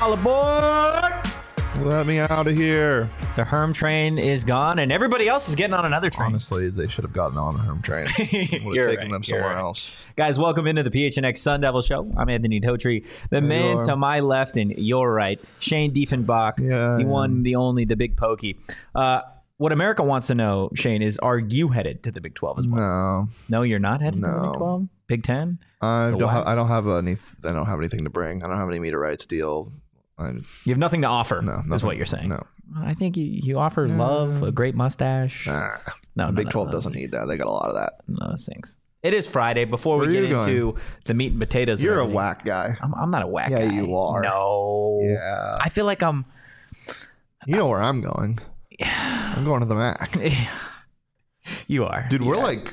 All aboard! Let me out of here. The Herm train is gone, and everybody else is getting on another train. Honestly, they should have gotten on the Herm train. Would have taken them somewhere else. Guys, welcome into the PHNX Sun Devil Show. I'm Anthony Totri. The man to my left and your right, Shane Diefenbach. Yeah, the one, the only, the big pokey. What America wants to know, Shane, is are you headed to the Big 12 as well? No. No, you're not headed to the Big 12? Big 10? I don't have anything to bring. I don't have any meter rights deal. You have nothing to offer, is what you're saying. No. I think you offer love, a great mustache. No, Big 12 doesn't need that. They got a lot of that. No, it stinks. It is Friday. Before we get into the meat and potatoes. You're a whack guy. I'm not a whack guy. Yeah, you are. No. Yeah. I feel like I'm... You know where I'm going. I'm going to the MAC. You are. Dude, we're like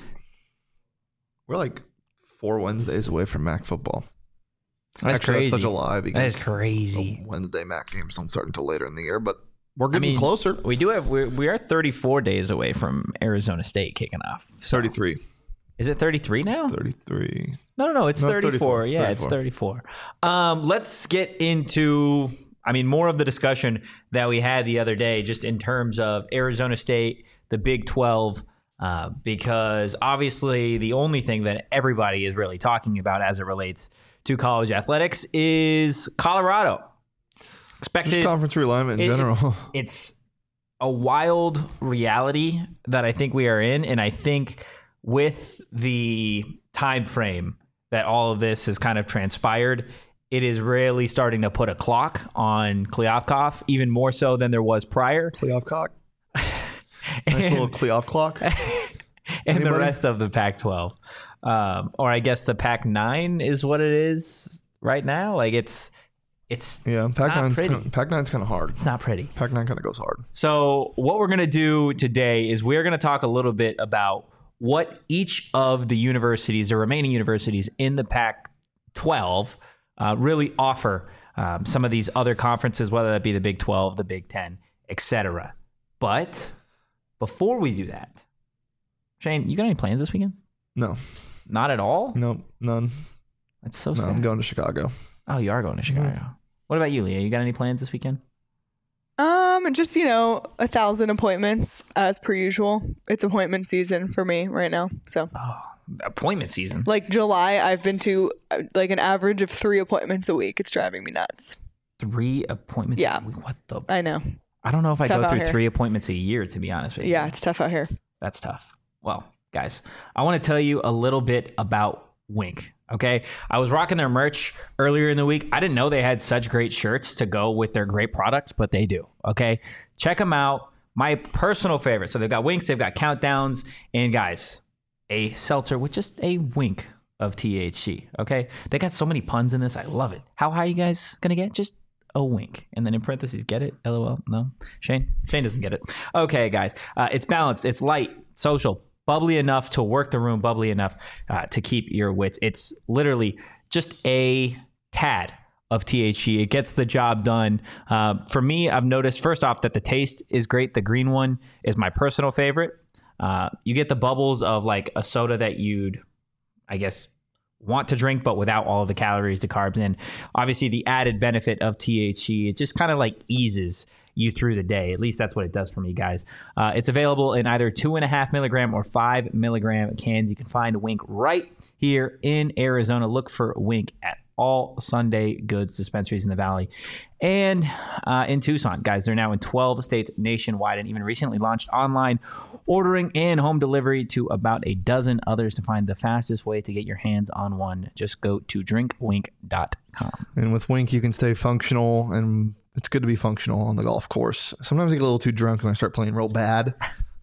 4 Wednesdays away from MAC football. That's Actually, crazy. That's such a lie because that is crazy. Wednesday MAC games don't start until later in the year, but we're getting closer. We are 34 days away from Arizona State kicking off. So. 33. Is it 33 now? 33. No, it's 34. 34. Yeah, 34. It's 34. Let's get into, more of the discussion that we had the other day, just in terms of Arizona State, the Big 12, because obviously the only thing that everybody is really talking about as it relates to college athletics is Colorado. Expected just conference realignment in general. It's a wild reality that I think we are in, and I think with the time frame that all of this has kind of transpired, it is really starting to put a clock on Kliavkoff, even more so than there was prior. Kliavkoff. Nice little Kliavkoff clock. And the rest of the Pac-12. Or I guess the Pac-9 is what it is right now. Like it's Pac-9's kind of hard. It's not pretty. Pac-9 kind of goes hard. So what we're going to do today is we're going to talk a little bit about what each of the universities, the remaining universities in the Pac-12 really offer some of these other conferences, whether that be the Big 12, the Big 10, etc. But before we do that, Shane, you got any plans this weekend? No. Not at all? No, none. That's so sad. I'm going to Chicago. Oh, you are going to Chicago. Mm-hmm. What about you, Leah? You got any plans this weekend? Just 1,000 appointments as per usual. It's appointment season for me right now. So appointment season. Like July, I've been to like an average of 3 appointments a week. It's driving me nuts. 3 appointments a week? What the? I know. I don't know if I go through 3 appointments a year, to be honest with you. Yeah, it's tough out here. That's tough. Well, guys, I want to tell you a little bit about Wink. Okay, I was rocking their merch earlier in the week. I didn't know they had such great shirts to go with their great products, but they do. Okay, check them out. My personal favorite. So they've got winks, they've got countdowns, and guys, a seltzer with just a wink of THC. Okay, they got so many puns in this. I love it. How high are you guys gonna get? Just a wink, and then in parentheses, get it? LOL. No, Shane doesn't get it. Okay, guys, it's balanced. It's light, social. Bubbly enough to work the room, bubbly enough to keep your wits. It's literally just a tad of THC. It gets the job done. For me, I've noticed, first off, that the taste is great. The green one is my personal favorite. You get the bubbles of like a soda that you'd, I guess, want to drink, but without all of the calories, the carbs, and obviously the added benefit of THC. It just kind of like eases you through the day. At least that's what it does for me, guys. It's available in either 2.5 milligram or 5 milligram cans. You can find Wink right here in Arizona. Look for Wink at all Sunday Goods dispensaries in the Valley and in Tucson. Guys, they're now in 12 states nationwide and even recently launched online ordering and home delivery to about a dozen others. To find the fastest way to get your hands on one, just go to drinkwink.com. And with Wink, you can stay functional, and it's good to be functional on the golf course. Sometimes I get a little too drunk and I start playing real bad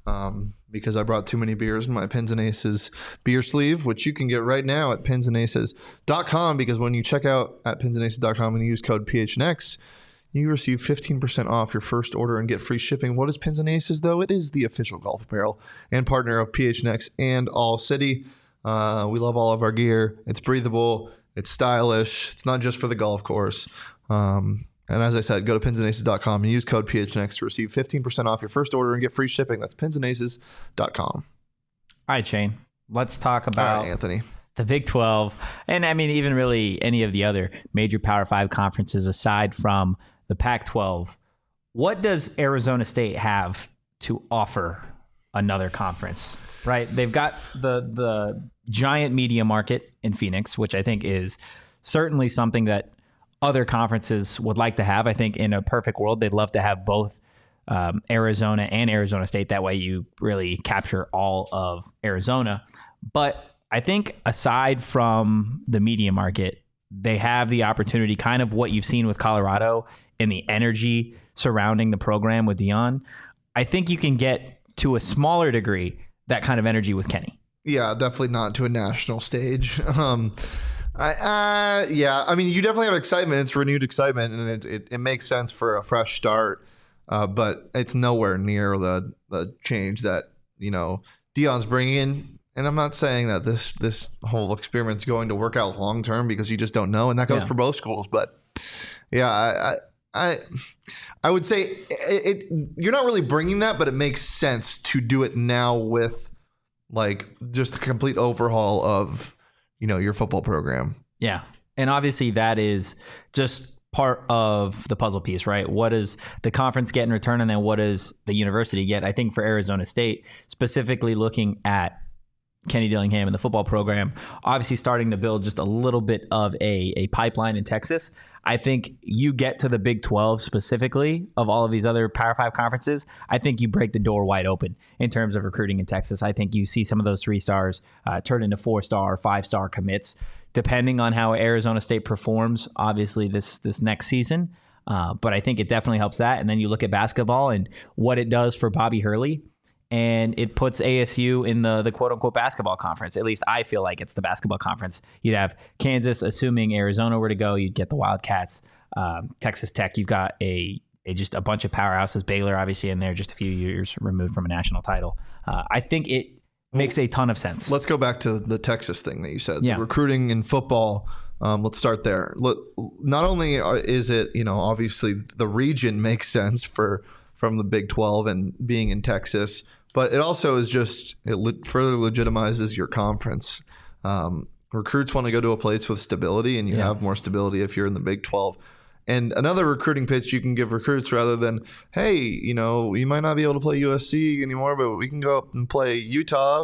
because I brought too many beers in my Pins and Aces beer sleeve, which you can get right now at pinsandaces.com, because when you check out at pinsandaces.com and use code PHNX, you receive 15% off your first order and get free shipping. What is Pins and Aces, though? It is the official golf apparel and partner of PHNX and All City. We love all of our gear. It's breathable. It's stylish. It's not just for the golf course. And as I said, go to pinsandaces.com and use code PHNX to receive 15% off your first order and get free shipping. That's pinsandaces.com. All right, Shane. Let's talk about Anthony. the Big 12, and I mean, even really any of the other major Power 5 conferences aside from the Pac-12, what does Arizona State have to offer another conference, right? They've got the giant media market in Phoenix, which I think is certainly something that other conferences would like to have. I think in a perfect world, they'd love to have both Arizona and Arizona State. That way you really capture all of Arizona. But I think aside from the media market, they have the opportunity, kind of what you've seen with Colorado and the energy surrounding the program with Deion. I think you can get to a smaller degree that kind of energy with Kenny. Yeah, definitely not to a national stage. I mean, you definitely have excitement. It's renewed excitement, and it makes sense for a fresh start. But it's nowhere near the change that, you know, Deion's bringing in. And I'm not saying that this whole experiment's going to work out long term, because you just don't know, and that goes for both schools. But yeah, I would say you're not really bringing that, but it makes sense to do it now with like just a complete overhaul of, you know, your football program. Yeah, and obviously that is just part of the puzzle piece, right? What does the conference get in return, and then what does the university get? I think for Arizona State, specifically looking at Kenny Dillingham and the football program, obviously starting to build just a little bit of a pipeline in Texas. I think you get to the Big 12 specifically of all of these other Power 5 conferences. I think you break the door wide open in terms of recruiting in Texas. I think you see some of those 3 stars turn into 4-star, 5-star commits, depending on how Arizona State performs, obviously this next season. But I think it definitely helps that. And then you look at basketball and what it does for Bobby Hurley, and it puts ASU in the quote-unquote basketball conference. At least I feel like it's the basketball conference. You'd have Kansas, assuming Arizona were to go. You'd get the Wildcats. Texas Tech, you've got just a bunch of powerhouses. Baylor, obviously, in there, just a few years removed from a national title. I think it makes a ton of sense. Let's go back to the Texas thing that you said. Yeah. The recruiting in football. Let's start there. Not only is it, you know, obviously the region makes sense from the Big 12 and being in Texas, but it also is just, it further legitimizes your conference. Recruits want to go to a place with stability, and you have more stability if you're in the Big 12. And another recruiting pitch you can give recruits, rather than, hey, you know, you might not be able to play USC anymore, but we can go up and play Utah.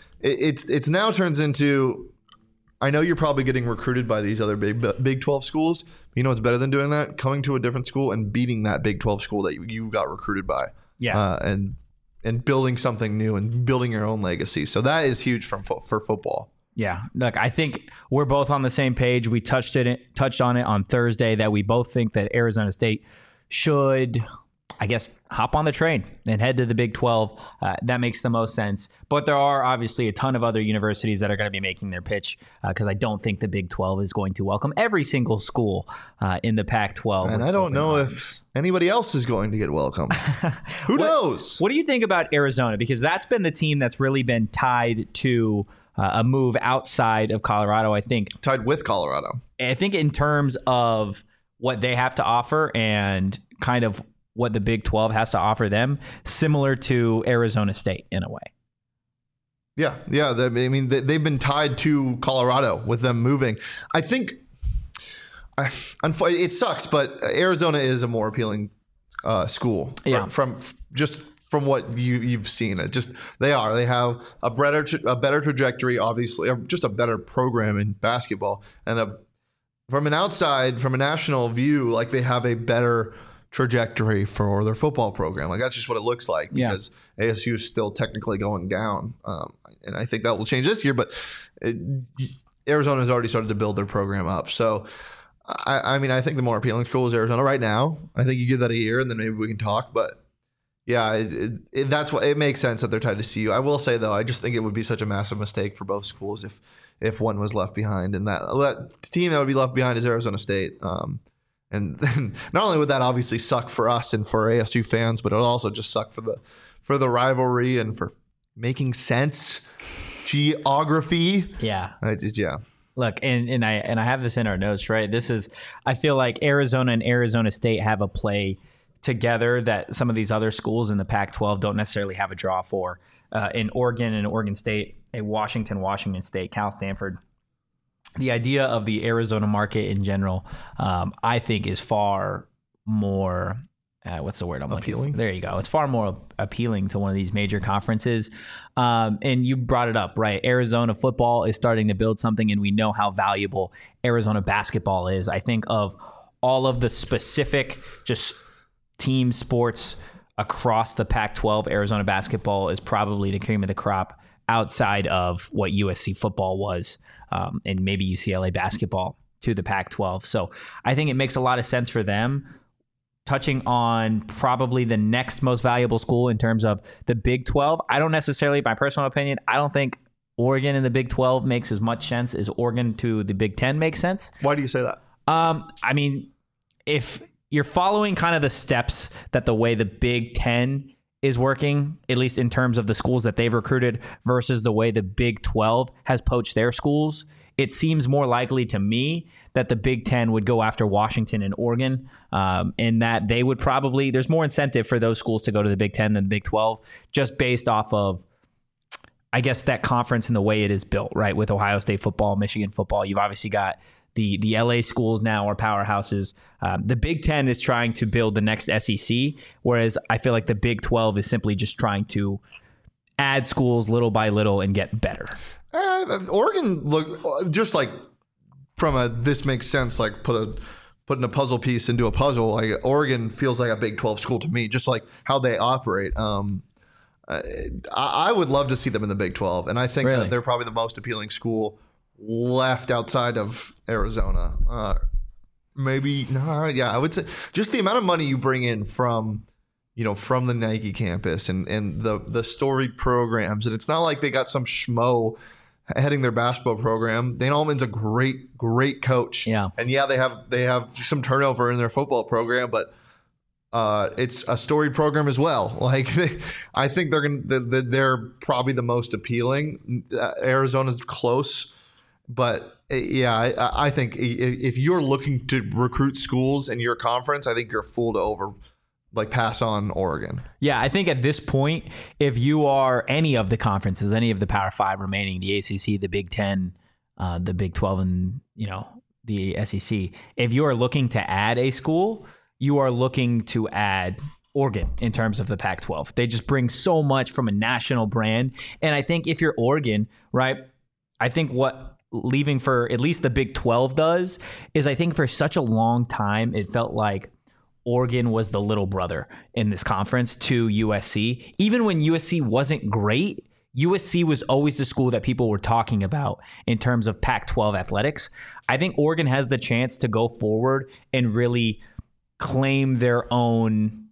It's now turns into, I know you're probably getting recruited by these other Big 12 schools. But you know what's better than doing that? Coming to a different school and beating that Big 12 school that you got recruited by. Yeah. And building something new and building your own legacy. So that is huge for football. Yeah. Look, I think we're both on the same page. We touched on it on Thursday that we both think that Arizona State should, I guess, hop on the train and head to the Big 12. That makes the most sense. But there are obviously a ton of other universities that are going to be making their pitch, because I don't think the Big 12 is going to welcome every single school in the Pac-12. And I don't know if anybody else is going to get welcome. Who knows? What do you think about Arizona? Because that's been the team that's really been tied to a move outside of Colorado, I think. Tied with Colorado. I think in terms of what they have to offer and kind of what the Big 12 has to offer them, similar to Arizona State in a way. Yeah. I mean, they've been tied to Colorado with them moving. I think it sucks, but Arizona is a more appealing school. Yeah. From what you've seen. They have a better trajectory, obviously, or just a better program in basketball, and from a national view, like they have a better trajectory for their football program. Like that's just what it looks like, because ASU is still technically going down, and I think that will change this year. But Arizona has already started to build their program up. So, I mean, I think the more appealing school is Arizona right now. I think you give that a year, and then maybe we can talk. But yeah, that's what it makes sense that they're tied to CU. I will say though, I just think it would be such a massive mistake for both schools if one was left behind, and that team that would be left behind is Arizona State. And not only would that obviously suck for us and for ASU fans, but it would also just suck for the rivalry and for making sense, geography. Yeah. Yeah. Look, and I have this in our notes, right? I feel like Arizona and Arizona State have a play together that some of these other schools in the Pac-12 don't necessarily have a draw for. In Oregon and Oregon State, a Washington State, Cal Stanford, the idea of the Arizona market in general, I think is far more, what's the word I'm looking Appealing? for? There you go. It's far more appealing to one of these major conferences. And you brought it up, right? Arizona football is starting to build something, and we know how valuable Arizona basketball is. I think of all of the specific just team sports across the Pac-12, Arizona basketball is probably the cream of the crop outside of what USC football was, and maybe UCLA basketball to the Pac-12. So I think it makes a lot of sense for them. Touching on probably the next most valuable school in terms of the Big 12, I don't necessarily, my personal opinion, I don't think Oregon in the Big 12 makes as much sense as Oregon to the Big 10 makes sense. Why do you say that? I mean, if you're following kind of the steps that the way the Big 10 is working, at least in terms of the schools that they've recruited versus the way the Big 12 has poached their schools, it seems more likely to me that the Big 10 would go after Washington and Oregon, and that they would probably, there's more incentive for those schools to go to the Big 10 than the Big 12, just based off of, I guess, that conference and the way it is built, right? With Ohio State football, Michigan football, you've obviously got the LA schools now are powerhouses. The Big 10 is trying to build the next SEC, whereas I feel like the Big 12 is simply just trying to add schools little by little and get better. Oregon look just like from a this makes sense, like putting a puzzle piece into a puzzle. Like Oregon feels like a Big 12 school to me, just like how they operate. I would love to see them in the Big 12, and I think Really? that they're probably the most appealing school left outside of Arizona. Yeah, I would say just the amount of money you bring in from the Nike campus and the storied programs, and it's not like they got some schmo heading their basketball program. Dana Altman's a great coach. Yeah. And yeah, they have some turnover in their football program, but it's a storied program as well. Like I think they're probably the most appealing. Arizona's close, but yeah, I think if you're looking to recruit schools in your conference, I think you're a fool to pass on Oregon. Yeah, I think at this point, if you are any of the conferences, any of the Power 5 remaining, the ACC, the Big 10, the Big 12, and the SEC, if you are looking to add a school, you are looking to add Oregon in terms of the Pac-12. They just bring so much from a national brand. And I think if you're Oregon, right, I think what leaving for at least the Big 12 does is I think for such a long time, it felt like Oregon was the little brother in this conference to USC. Even when USC wasn't great, USC was always the school that people were talking about in terms of Pac-12 athletics. I think Oregon has the chance to go forward and really claim their own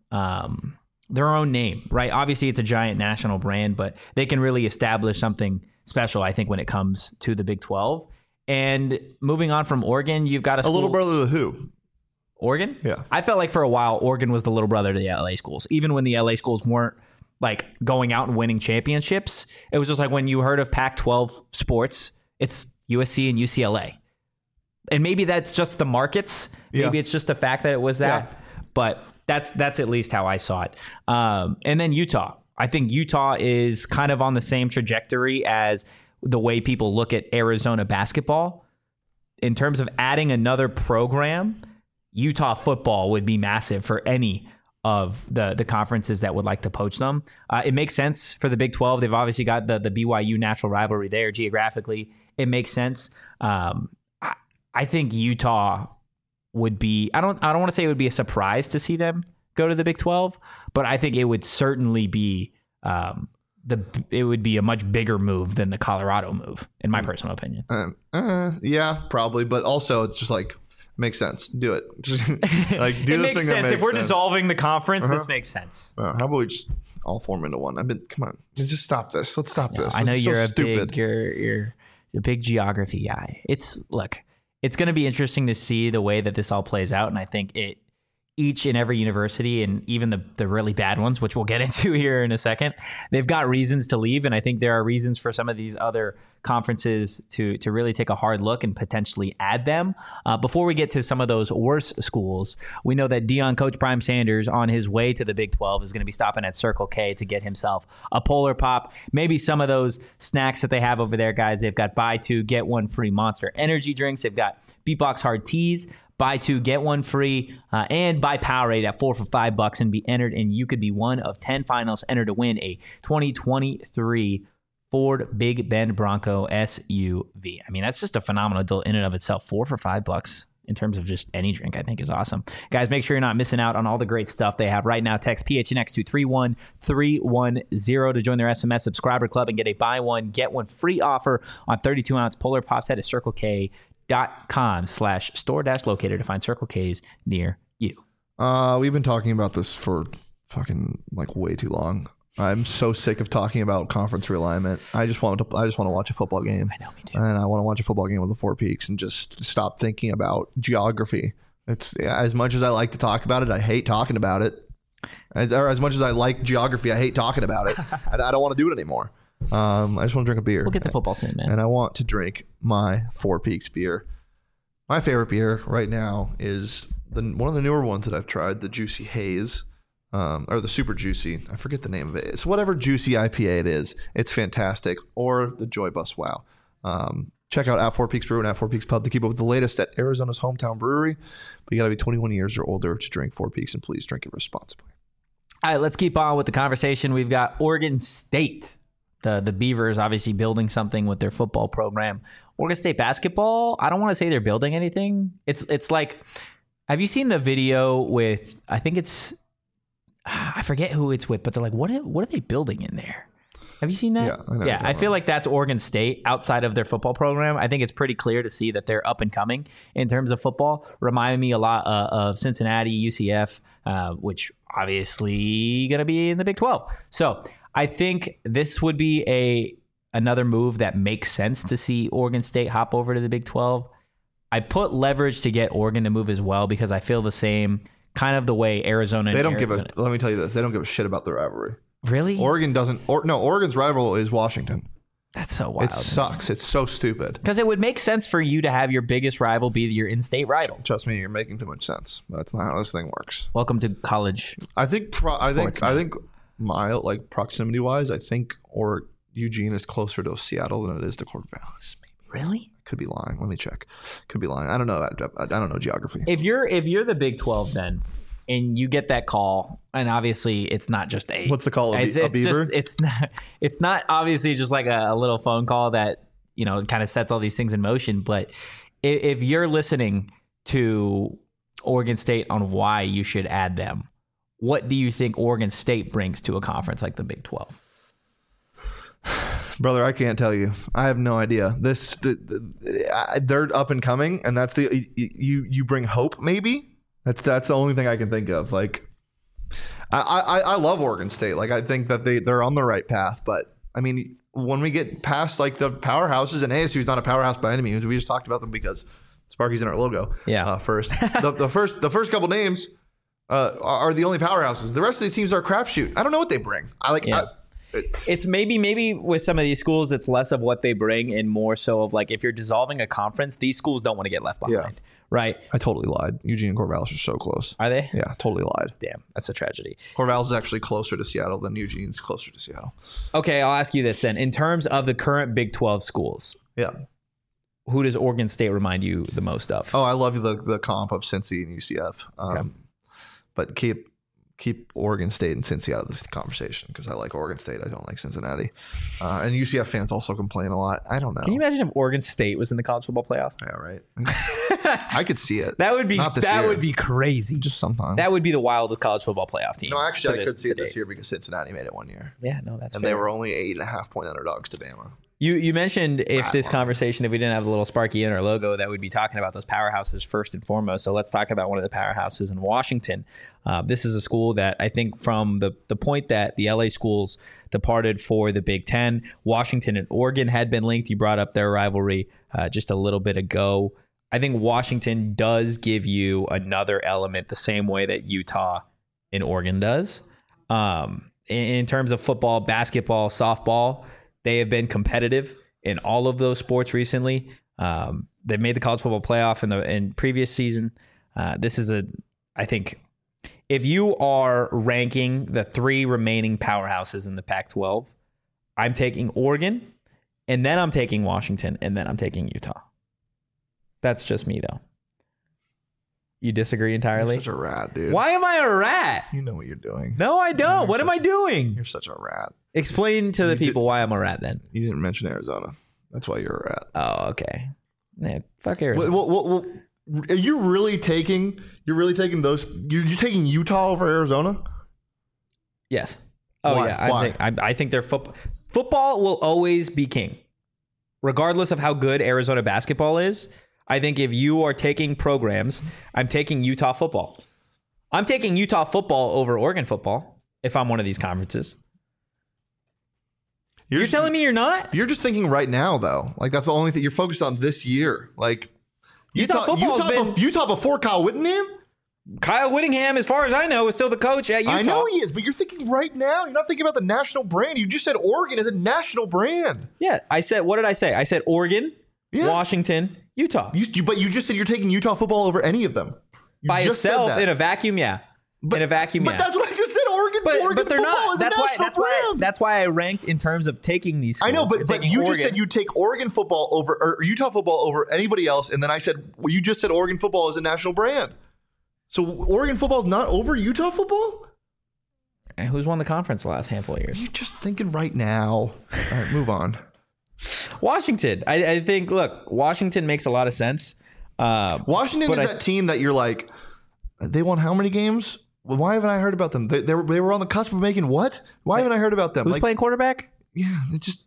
name, right? Obviously, it's a giant national brand, but they can really establish something special, I think, when it comes to the Big 12. And moving on from Oregon, you've got a little brother to who? Oregon? Yeah. I felt like for a while, Oregon was the little brother to the LA schools. Even when the LA schools weren't like going out and winning championships, it was just like when you heard of Pac-12 sports, it's USC and UCLA. And maybe that's just the markets. Yeah. Maybe it's just the fact that it was that. Yeah. But that's at least how I saw it. And then Utah. I think Utah is kind of on the same trajectory as the way people look at Arizona basketball. In terms of adding another program, Utah football would be massive for any of the conferences that would like to poach them. It makes sense for the Big 12. They've obviously got the BYU natural rivalry there geographically. It makes sense. I think Utah would be, I don't want to say it would be a surprise to see them go to the Big 12, but I think it would certainly be it would be a much bigger move than the Colorado move, in my personal opinion. Yeah, probably, but also it's just like makes sense. Do it. Just like do it the makes thing sense. that makes If we're sense. dissolving the conference, this makes sense. How about we just all form into one? Come on, just stop this. Let's stop this. I know This is you're so a stupid. big you're a big geography guy. It's going to be interesting to see the way that this all plays out, and I think it each and every university, and even the really bad ones, which we'll get into here in a second, they've got reasons to leave. And I think there are reasons for some of these other conferences to really take a hard look and potentially add them. Before we get to some of those worse schools, we know that Dion Coach Prime Sanders on his way to the Big 12 is going to be stopping at Circle K to get himself a Polar Pop. Maybe some of those snacks that they have over there, guys. They've got buy two, get one free Monster energy drinks. They've got Beatbox Hard Teas, buy two, get one free, and buy Powerade at 4 for $5 and be entered. And you could be one of 10 finalists entered to win a 2023 Ford Big Bend Bronco SUV. I mean, that's just a phenomenal deal in and of itself. 4 for $5 in terms of just any drink, I think is awesome. Guys, make sure you're not missing out on all the great stuff they have right now. Text PHNX to 31310 to join their SMS subscriber club and get a buy one, get one free offer on 32-ounce Polar Pops at CircleK.com/store-locator to find Circle K's near you. We've been talking about this for fucking like way too long. I'm so sick of talking about conference realignment. I just want to watch a football game. I know, me too. And I want to watch a football game with the Four Peaks and just stop thinking about geography. It's as much as I like to talk about it, I hate talking about it. As much as I like geography, I hate talking about it. I don't want to do it anymore. I just want to drink a beer. We'll get to football soon, man. And I want to drink my Four Peaks beer. My favorite beer right now is one of the newer ones that I've tried, the Juicy Haze. Or the Super Juicy. I forget the name of it. It's whatever juicy IPA it is. It's fantastic. Or the Joy Bus Wow. Check out at Four Peaks Brew and at Four Peaks Pub to keep up with the latest at Arizona's hometown brewery. But you got to be 21 years or older to drink Four Peaks, and please drink it responsibly. All right, let's keep on with the conversation. We've got Oregon State. The Beavers obviously building something with their football program. Oregon State basketball, I don't want to say they're building anything. It's like, have you seen the video with, I think it's, I forget who it's with, but they're like, what are they building in there? Have you seen that? Yeah, I know. Yeah, I feel like that's Oregon State outside of their football program. I think it's pretty clear to see that they're up and coming in terms of football. Remind me a lot of Cincinnati, UCF, which obviously going to be in the Big 12. So I think this would be another move that makes sense to see Oregon State hop over to the Big 12. I put leverage to get Oregon to move as well because I feel the same kind of the way Arizona. They don't let me tell you this. They don't give a shit about the rivalry. Really? Oregon doesn't. Oregon's rival is Washington. That's so wild. It sucks. It's so stupid. Because it would make sense for you to have your biggest rival be your in-state rival. Trust me, you're making too much sense. That's not how this thing works. Welcome to college. I think my proximity wise, I think Eugene is closer to Seattle than it is to Corvallis. Really? Could be lying. Let me check. Could be lying. I don't know. I don't know geography. If you're the Big 12 then, and you get that call, and obviously it's not just what's the call? A beaver? It's not obviously just like a little phone call that kind of sets all these things in motion. But if you're listening to Oregon State on why you should add them, what do you think Oregon State brings to a conference like the Big 12? Brother, I can't tell you. I have no idea. They're up and coming, and that's you bring hope. Maybe that's the only thing I can think of. Like, I love Oregon State. Like, I think that they're on the right path. But I mean, when we get past like the powerhouses, and ASU is not a powerhouse by any means. We just talked about them because Sparky's in our logo. Yeah. First, the first couple names are the only powerhouses. The rest of these teams are a crapshoot. I don't know what they bring. It's maybe with some of these schools, it's less of what they bring and more so of like if you're dissolving a conference, these schools don't want to get left behind, right? I totally lied. Eugene and Corvallis are so close. Are they? Yeah, totally lied. Damn, that's a tragedy. Corvallis is actually closer to Seattle than Eugene's closer to Seattle. Okay, I'll ask you this then. In terms of the current Big 12 schools, who does Oregon State remind you the most of? Oh, I love the comp of Cincy and UCF. Okay. But keep Oregon State and Cincy out of this conversation because I like Oregon State. I don't like Cincinnati. And UCF fans also complain a lot. I don't know. Can you imagine if Oregon State was in the college football playoff? Yeah, right. I could see it. That would be crazy. Just sometime. That would be the wildest college football playoff team. No, actually, I could see it this year because Cincinnati made it one year. Yeah, no, that's and fair. They were only 8.5-point underdogs to Bama. You mentioned if this conversation, if we didn't have the little Sparky in our logo, that we'd be talking about those powerhouses first and foremost. So let's talk about one of the powerhouses in Washington. This is a school that I think from the point that the LA schools departed for the Big Ten, Washington and Oregon had been linked. You brought up their rivalry just a little bit ago. I think Washington does give you another element the same way that Utah and Oregon does. In terms of football, basketball, softball, they have been competitive in all of those sports recently. They made the college football playoff in previous season. This is I think if you are ranking the 3 remaining powerhouses in the Pac-12, I'm taking Oregon, and then I'm taking Washington, and then I'm taking Utah. That's just me, though. You disagree entirely? You're such a rat, dude. Why am I a rat? You know what you're doing. No, I don't. What am I doing? You're such a rat. Explain to the people why I'm a rat then. You didn't mention Arizona. That's why you're a rat. Oh, okay. Yeah, fuck Arizona. Well, are you really taking? You're really taking those? You're taking Utah over Arizona? Yes. Oh Why? yeah. Why? I think their football will always be king, regardless of how good Arizona basketball is. I think if you are taking programs, I'm taking Utah football. I'm taking Utah football over Oregon football if I'm one of these conferences. You're telling me you're not? You're just thinking right now, though. Like, that's the only thing you're focused on this year. Like, Utah before Kyle Whittingham? Kyle Whittingham, as far as I know, is still the coach at Utah. I know he is, but you're thinking right now. You're not thinking about the national brand. You just said Oregon is a national brand. Yeah, I said, what did I say? I said Oregon, Washington, Utah. But you just said you're taking Utah football over any of them. By itself, in a vacuum, yeah. But that's what I just said. Oregon they're football not. is a national brand. That's why I ranked in terms of taking these schools. I know, but you just said you take Oregon football over or Utah football over anybody else, and then I said you just said Oregon football is a national brand. So Oregon football is not over Utah football? And who's won the conference the last handful of years? You're just thinking right now. All right, move on. Washington. I think, look, Washington makes a lot of sense. Washington is that team that you're like, they won how many games? Well, why haven't I heard about them? They were on the cusp of making what? Why haven't I heard about them? Who's playing quarterback? Yeah, it's just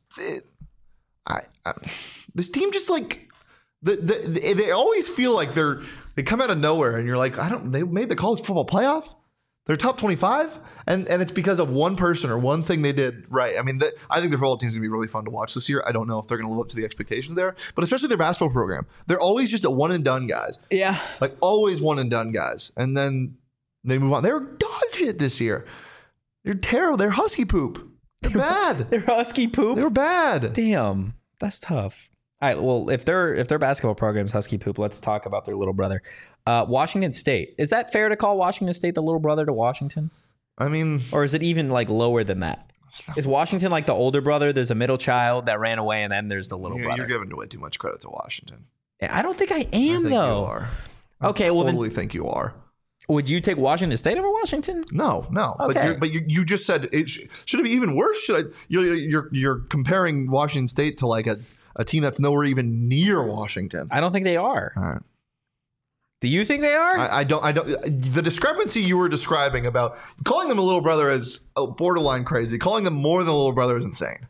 this team just like they always feel like they come out of nowhere, and you're like, they made the college football playoff. They're top 25, and it's because of one person or one thing they did right. I mean, I think the football team's gonna be really fun to watch this year. I don't know if they're gonna live up to the expectations there, but especially their basketball program, they're always just a one and done guys. Yeah, like always one and done guys, and then they move on. They were dog shit this year. They're terrible. They're Husky poop. They're bad. They're Husky poop. They were bad. Damn, that's tough. All right. Well, if their basketball program's Husky poop, let's talk about their little brother, Washington State. Is that fair to call Washington State the little brother to Washington? I mean, or is it even like lower than that? Is Washington like the older brother? There's a middle child that ran away, and then there's the little brother. You're giving way too much credit to Washington. I don't think I am, though. You are. Okay, well, I totally think you are. Would you take Washington State over Washington? No. Okay. But you just said it should it be even worse? Should I? You're comparing Washington State to like a team that's nowhere even near Washington. I don't think they are. All right. Do you think they are? I don't. The discrepancy you were describing about calling them a little brother is borderline crazy. Calling them more than a little brother is insane.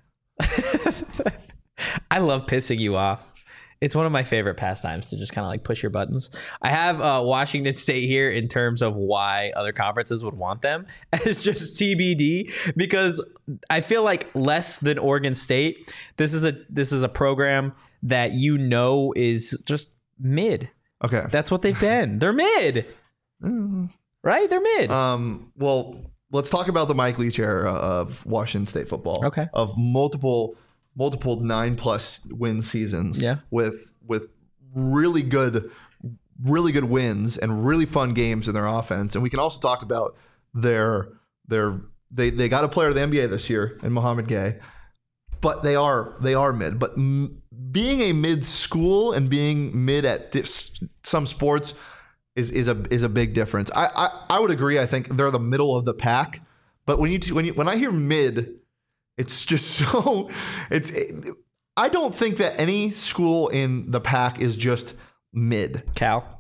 I love pissing you off. It's one of my favorite pastimes to just kind of like push your buttons. I have Washington State here in terms of why other conferences would want them as just TBD, because I feel like less than Oregon State, this is a program that is just mid. Okay. That's what they've been. They're mid. Right? They're mid. Well, let's talk about the Mike Leach era of Washington State football. Okay. Of multiple 9+ win seasons. Yeah. With really good wins and really fun games in their offense. And we can also talk about they got a player of the NBA this year in Mohamed Gay, but they are mid. But being a mid school and being mid at some sports is a big difference. I would agree. I think they're the middle of the pack. But when I hear mid, it's just so I don't think that any school in the pack is just mid. Cal.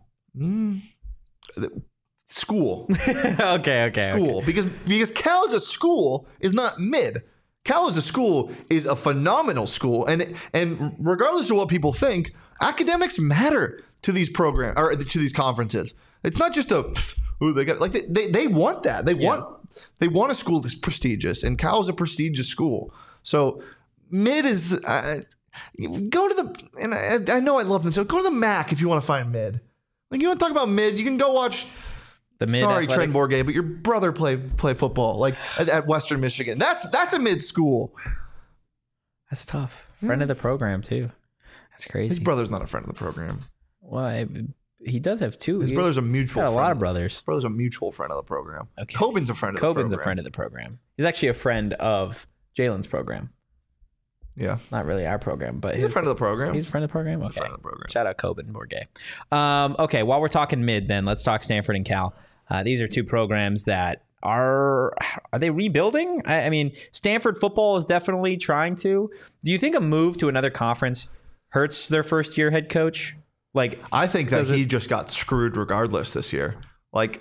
School. Okay. School. Okay. Because Cal as a school is not mid. Cal as a school is a phenomenal school. And regardless of what people think, academics matter to these programs or to these conferences. It's not just they got like they want that. They want a school that's prestigious, and Cal is a prestigious school. So mid is Go to the, and I know I love them, so go to the MAC if you want to find mid. Like, you want to talk about mid, you can go watch. The mid. Sorry, athletic. Trent Bourget, but your brother play football like at Western Michigan. That's a mid school. That's tough. Friend of the program too. That's crazy. His brother's not a friend of the program. Well, he does have two. His brother's a mutual. Got a friend lot of brothers. His brother's a mutual friend of the program. Okay. Coben's a friend of the program. Coben's a friend of the program. He's actually a friend of Jalen's program. Yeah. Not really our program, but He's a friend of the program. He's a friend of the program? Okay. Friend of the program. Shout out Coben Bourget. Okay, while we're talking mid, then let's talk Stanford and Cal. These are two programs that are they rebuilding? I mean, Stanford football is definitely trying to. Do you think a move to another conference hurts their first year head coach? Like, I think that he just got screwed regardless this year. Like,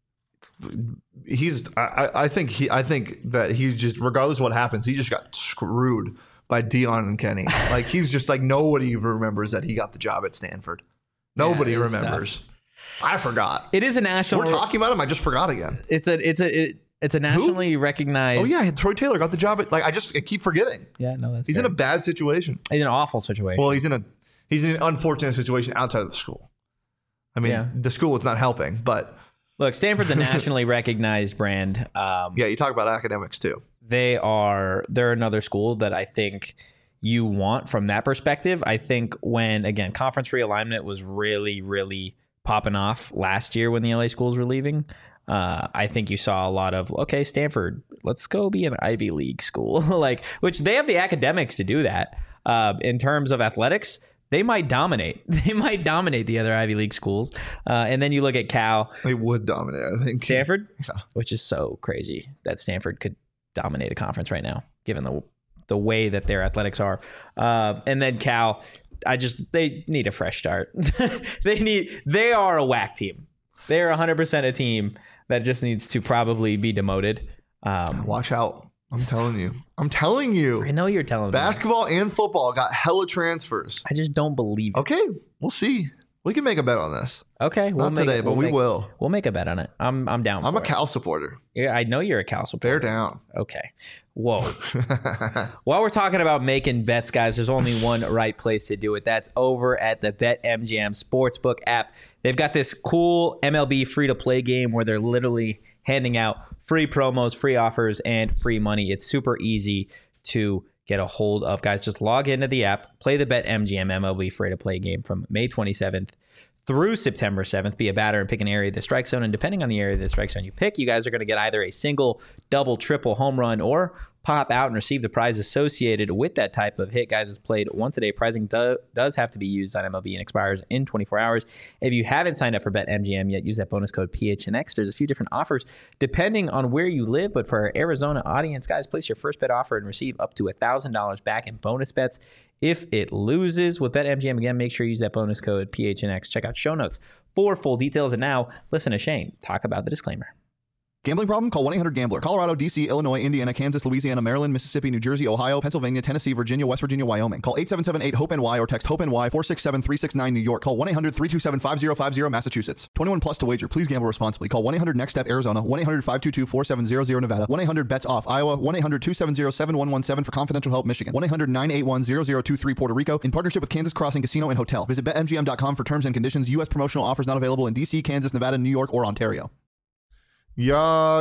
I think that he's just, regardless of what happens, he just got screwed by Dion and Kenny. Like, he's just like, nobody remembers that he got the job at Stanford. Nobody remembers. Tough. I forgot. It is a national. We're talking about him. I just forgot again. It's a nationally recognized. Oh yeah, Troy Taylor got the job at, like, I keep forgetting. Yeah, no, he's fair. In a bad situation. He's in an awful situation. Well, he's in an unfortunate situation outside of the school. I mean, the school is not helping, but look, Stanford's a nationally recognized brand. Yeah, you talk about academics too. They're another school that I think you want from that perspective. I think when, again, conference realignment was really, really popping off last year when the LA schools were leaving, I think you saw a lot of, okay, Stanford, let's go be an Ivy League school, like, which they have the academics to do that. In terms of athletics, they might dominate. They might dominate the other Ivy League schools. And then you look at Cal. They would dominate, I think. Stanford? Yeah. Which is so crazy that Stanford could dominate a conference right now, given the way that their athletics are. And then Cal, they need a fresh start. They are a whack team. They are 100% a team that just needs to probably be demoted. Watch out. I'm telling you. I know you're telling me. Basketball and football got hella transfers. I just don't believe it. Okay, we'll see. We can make a bet on this. Okay, not today, but we will. We'll make a bet on it. I'm down. I'm a Cal supporter. Yeah, I know you're a Cal supporter. Bear down. Okay. Whoa. While we're talking about making bets, guys, there's only one right place to do it. That's over at the BetMGM Sportsbook app. They've got this cool MLB free-to-play game where they're literally handing out free promos, free offers, and free money. It's super easy to get a hold of, guys. Just log into the app, play the BetMGM MLB free-to-play game from May 27th through September 7th. Be a batter and pick an area of the strike zone. And depending on the area of the strike zone you pick, you guys are going to get either a single, double, triple home run or pop out and receive the prize associated with that type of hit. Guys, it's played once a day. Pricing does have to be used on MLB and expires in 24 hours. If you haven't signed up for BetMGM yet, use that bonus code PHNX. There's a few different offers depending on where you live, but for our Arizona audience, guys, place your first bet offer and receive up to $1,000 back in bonus bets if it loses. With BetMGM, again, make sure you use that bonus code PHNX. Check out show notes for full details. And now, listen to Shane talk about the disclaimer. Gambling problem? Call 1-800-GAMBLER. Colorado, D.C., Illinois, Indiana, Kansas, Louisiana, Maryland, Mississippi, New Jersey, Ohio, Pennsylvania, Tennessee, Virginia, West Virginia, Wyoming. Call 877-8-HOPE-NY or text HOPE-NY 467-369 New York. Call 1-800-327-5050 Massachusetts. 21 plus to wager. Please gamble responsibly. Call 1-800-NEXT-STEP Arizona. 1-800-522-4700 Nevada. 1-800-BETS-OFF Iowa. 1-800-270-7117 for confidential help Michigan. 1-800-981-0023 Puerto Rico. In partnership with Kansas Crossing Casino and Hotel. Visit BetMGM.com for terms and conditions. U.S. promotional offers not available in D.C., Kansas, Nevada, New York, or Ontario. Yeah.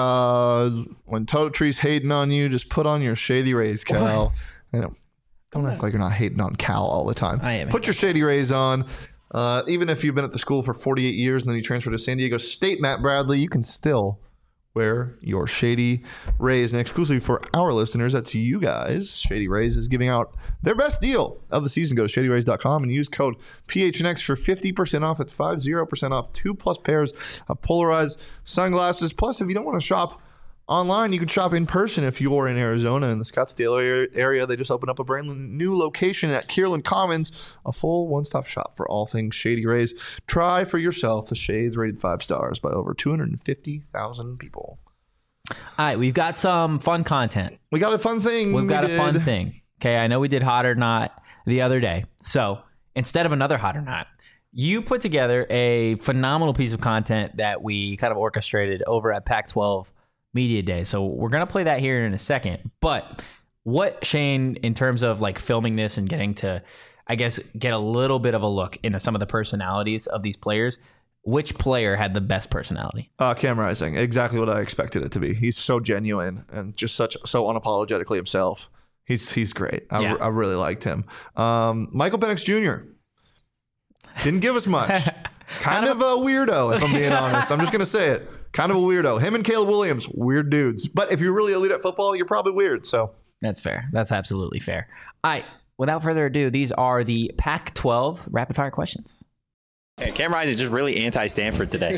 When Toto Tree's hating on you, just put on your Shady Rays, Cal. Don't act like you're not hating on Cal all the time. I am. Put your Shady Rays on. Even if you've been at the school for 48 years and then you transfer to San Diego State, Matt Bradley, you can still wear your Shady Rays. And exclusively for our listeners, that's you guys, Shady Rays is giving out their best deal of the season. Go to shadyrays.com and use code PHNX for 50% off. That's 50% off 2+ pairs of polarized sunglasses. Plus, if you don't want to shop online, you can shop in person if you're in Arizona in the Scottsdale area. They just opened up a brand new location at Kierland Commons, a full one-stop shop for all things Shady Rays. Try for yourself the shades rated 5 stars by over 250,000 people. All right, we've got some fun content. We got a fun thing. We've got a fun thing. Okay, I know we did Hot or Not the other day. So instead of another Hot or Not, you put together a phenomenal piece of content that we kind of orchestrated over at Pac-12 Media Day. So we're going to play that here in a second. But What, Shane, in terms of like filming this and getting to, I guess, get a little bit of a look into some of the personalities of these players, which player had the best personality? Cam Rising, exactly what I expected it to be. He's so genuine and just so unapologetically himself. He's great. I really liked him. Michael Penix Jr. didn't give us much. Kind of a weirdo, if I'm being honest. I'm just going to say it. Kind of a weirdo. Him and Caleb Williams, weird dudes. But if you're really elite at football, you're probably weird. So that's fair. That's absolutely fair. All right. Without further ado, these are the Pac-12 rapid fire questions. Hey, Cam Rising is just really anti-Stanford today.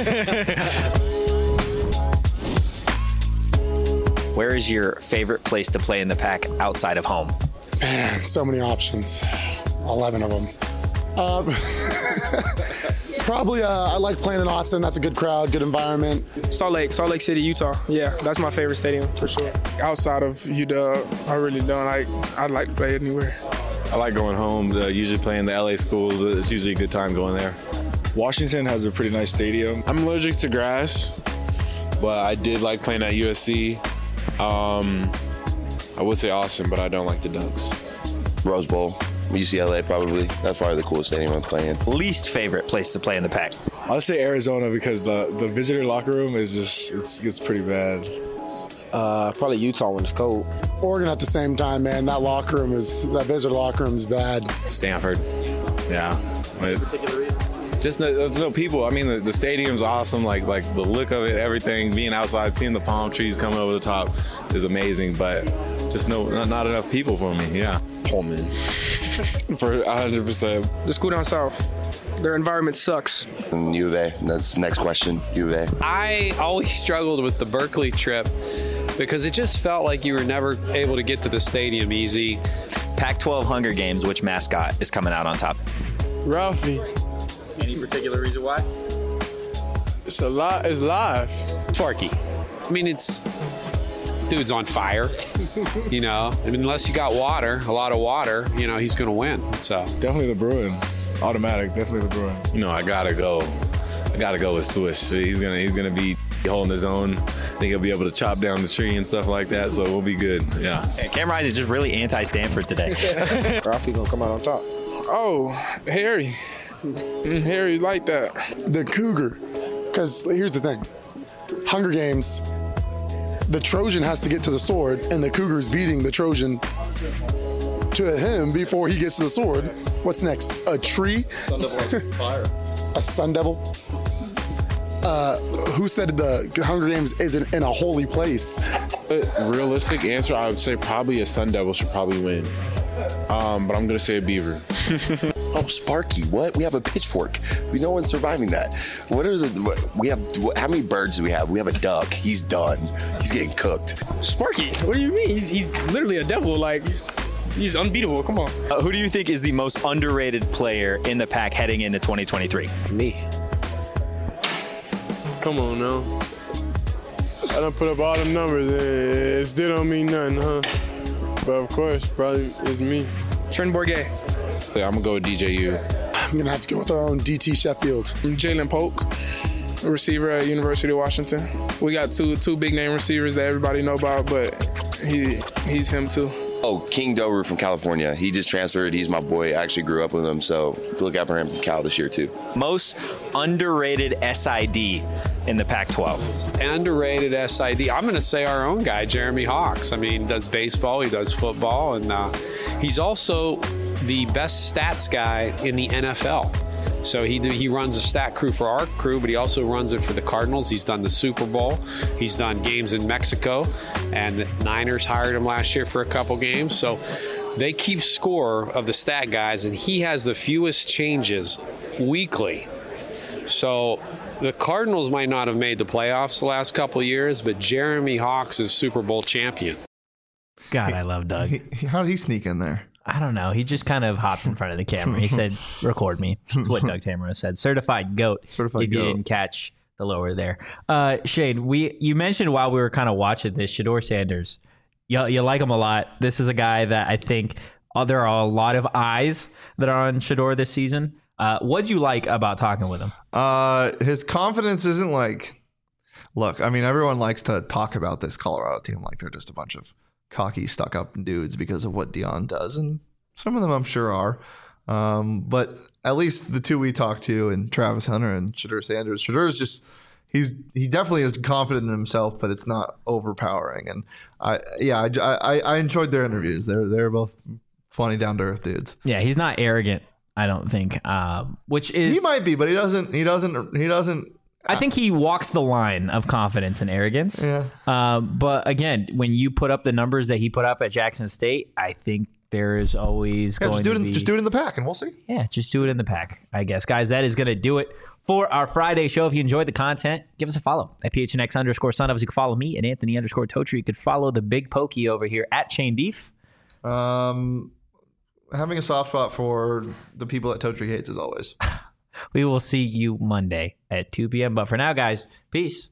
Where is your favorite place to play in the Pac outside of home? Man, so many options. 11 of them. Probably I like playing in Austin. That's a good crowd, good environment. Salt Lake City, Utah. Yeah, that's my favorite stadium for sure. Outside of UW, I really don't. I'd like to play anywhere. I like going home, usually playing the LA schools. It's usually a good time going there. Washington has a pretty nice stadium. I'm allergic to grass, but I did like playing at USC. I would say Austin, but I don't like the Ducks. Rose Bowl, UCLA probably. That's probably the coolest stadium I'm playing. Least favorite place to play in the Pac? I'll say Arizona because the visitor locker room is just, it's pretty bad. Probably Utah when it's cold. Oregon at the same time, man. That visitor locker room is bad. Stanford, yeah. Just there's no people. I mean, the stadium's awesome. Like the look of it, everything. Being outside, seeing the palm trees coming over the top is amazing. But just not enough people for me. Yeah. Pullman. For 100%. Just go down south. Their environment sucks. And U of A. That's the next question. U of A. I always struggled with the Berkeley trip because it just felt like you were never able to get to the stadium easy. Pac-12 Hunger Games, which mascot is coming out on top? Ralphie. Any particular reason why? It's live. Sparky. I mean, dude's on fire. You know, I mean, unless you got a lot of water, you know, he's going to win. So definitely the Bruin. Automatic, definitely the Bruin. You know, I gotta go with Swish. He's gonna be holding his own. I think he'll be able to chop down the tree and stuff like that, so we'll be good. Yeah. Hey, Cam Rising is just really anti-Stanford today. Ralphie gonna come out on top. Oh, Harry. Harry like that. The Cougar. Because here's the thing. Hunger Games, the Trojan has to get to the sword, and the Cougar's beating the Trojan to him before he gets to the sword. What's next? A tree? Sun Devil fire. A Sun Devil? Who said the Hunger Games isn't in a holy place? Realistic answer, I would say probably a Sun Devil should probably win. But I'm gonna say a Beaver. Oh, Sparky, what? We have a pitchfork. No one's surviving that. How many birds do we have? We have a duck. He's done. He's getting cooked. Sparky? What do you mean? He's literally a devil. Like, he's unbeatable. Come on. Who do you think is the most underrated player in the Pac heading into 2023? Me. Come on now. I done put up all them numbers. It still don't mean nothing, huh? But of course, probably it's me. Trent Bourget. Yeah, I'm gonna go with DJU. I'm gonna have to go with our own DT Sheffield. Jalen Polk, a receiver at University of Washington. We got two big name receivers that everybody know about, but he's him too. Oh, King Doru from California. He just transferred. He's my boy. I actually grew up with him, so look out for him from Cal this year too. Most underrated SID in the Pac-12. Underrated SID. I'm going to say our own guy, Jeremy Hawks. I mean, he does baseball, he does football, and he's also the best stats guy in the NFL. So he runs a stat crew for our crew, but he also runs it for the Cardinals. He's done the Super Bowl. He's done games in Mexico, and the Niners hired him last year for a couple games. So they keep score of the stat guys, and he has the fewest changes weekly. So the Cardinals might not have made the playoffs the last couple of years, but Jeremy Hawks is Super Bowl champion. God, I love Doug. How did he sneak in there? I don't know. He just kind of hopped in front of the camera. He said, record me. That's what Doug Tamaro said. Certified GOAT. Certified if you goat. didn't catch the lower there. Shane, you mentioned while we were kind of watching this, Shedeur Sanders. You like him a lot. This is a guy that I think there are a lot of eyes that are on Shedeur this season. What'd you like about talking with him? His confidence isn't like... Look, I mean, everyone likes to talk about this Colorado team like they're just a bunch of cocky, stuck up dudes because of what Deion does, and some of them I'm sure are. But at least the two we talked to, and Travis Hunter and Shedeur Sanders. Shedeur is just he definitely is confident in himself, but it's not overpowering. And I enjoyed their interviews. They're both funny, down to earth dudes. Yeah, he's not arrogant, I don't think. Which is he might be, but he doesn't. I think he walks the line of confidence and arrogance. Yeah. But again, when you put up the numbers that he put up at Jackson State, I think there is always going to be... Just do it in the pack, and we'll see. Yeah, just do it in the pack, I guess. Guys, that is going to do it for our Friday show. If you enjoyed the content, give us a follow at PHNX_Son. You can follow me at Anthony_Totri. You could follow the Big Pokey over here at Chain Beef. Having a soft spot for the people that Totri hates as always. We will see you Monday at 2 p.m. But for now, guys, peace.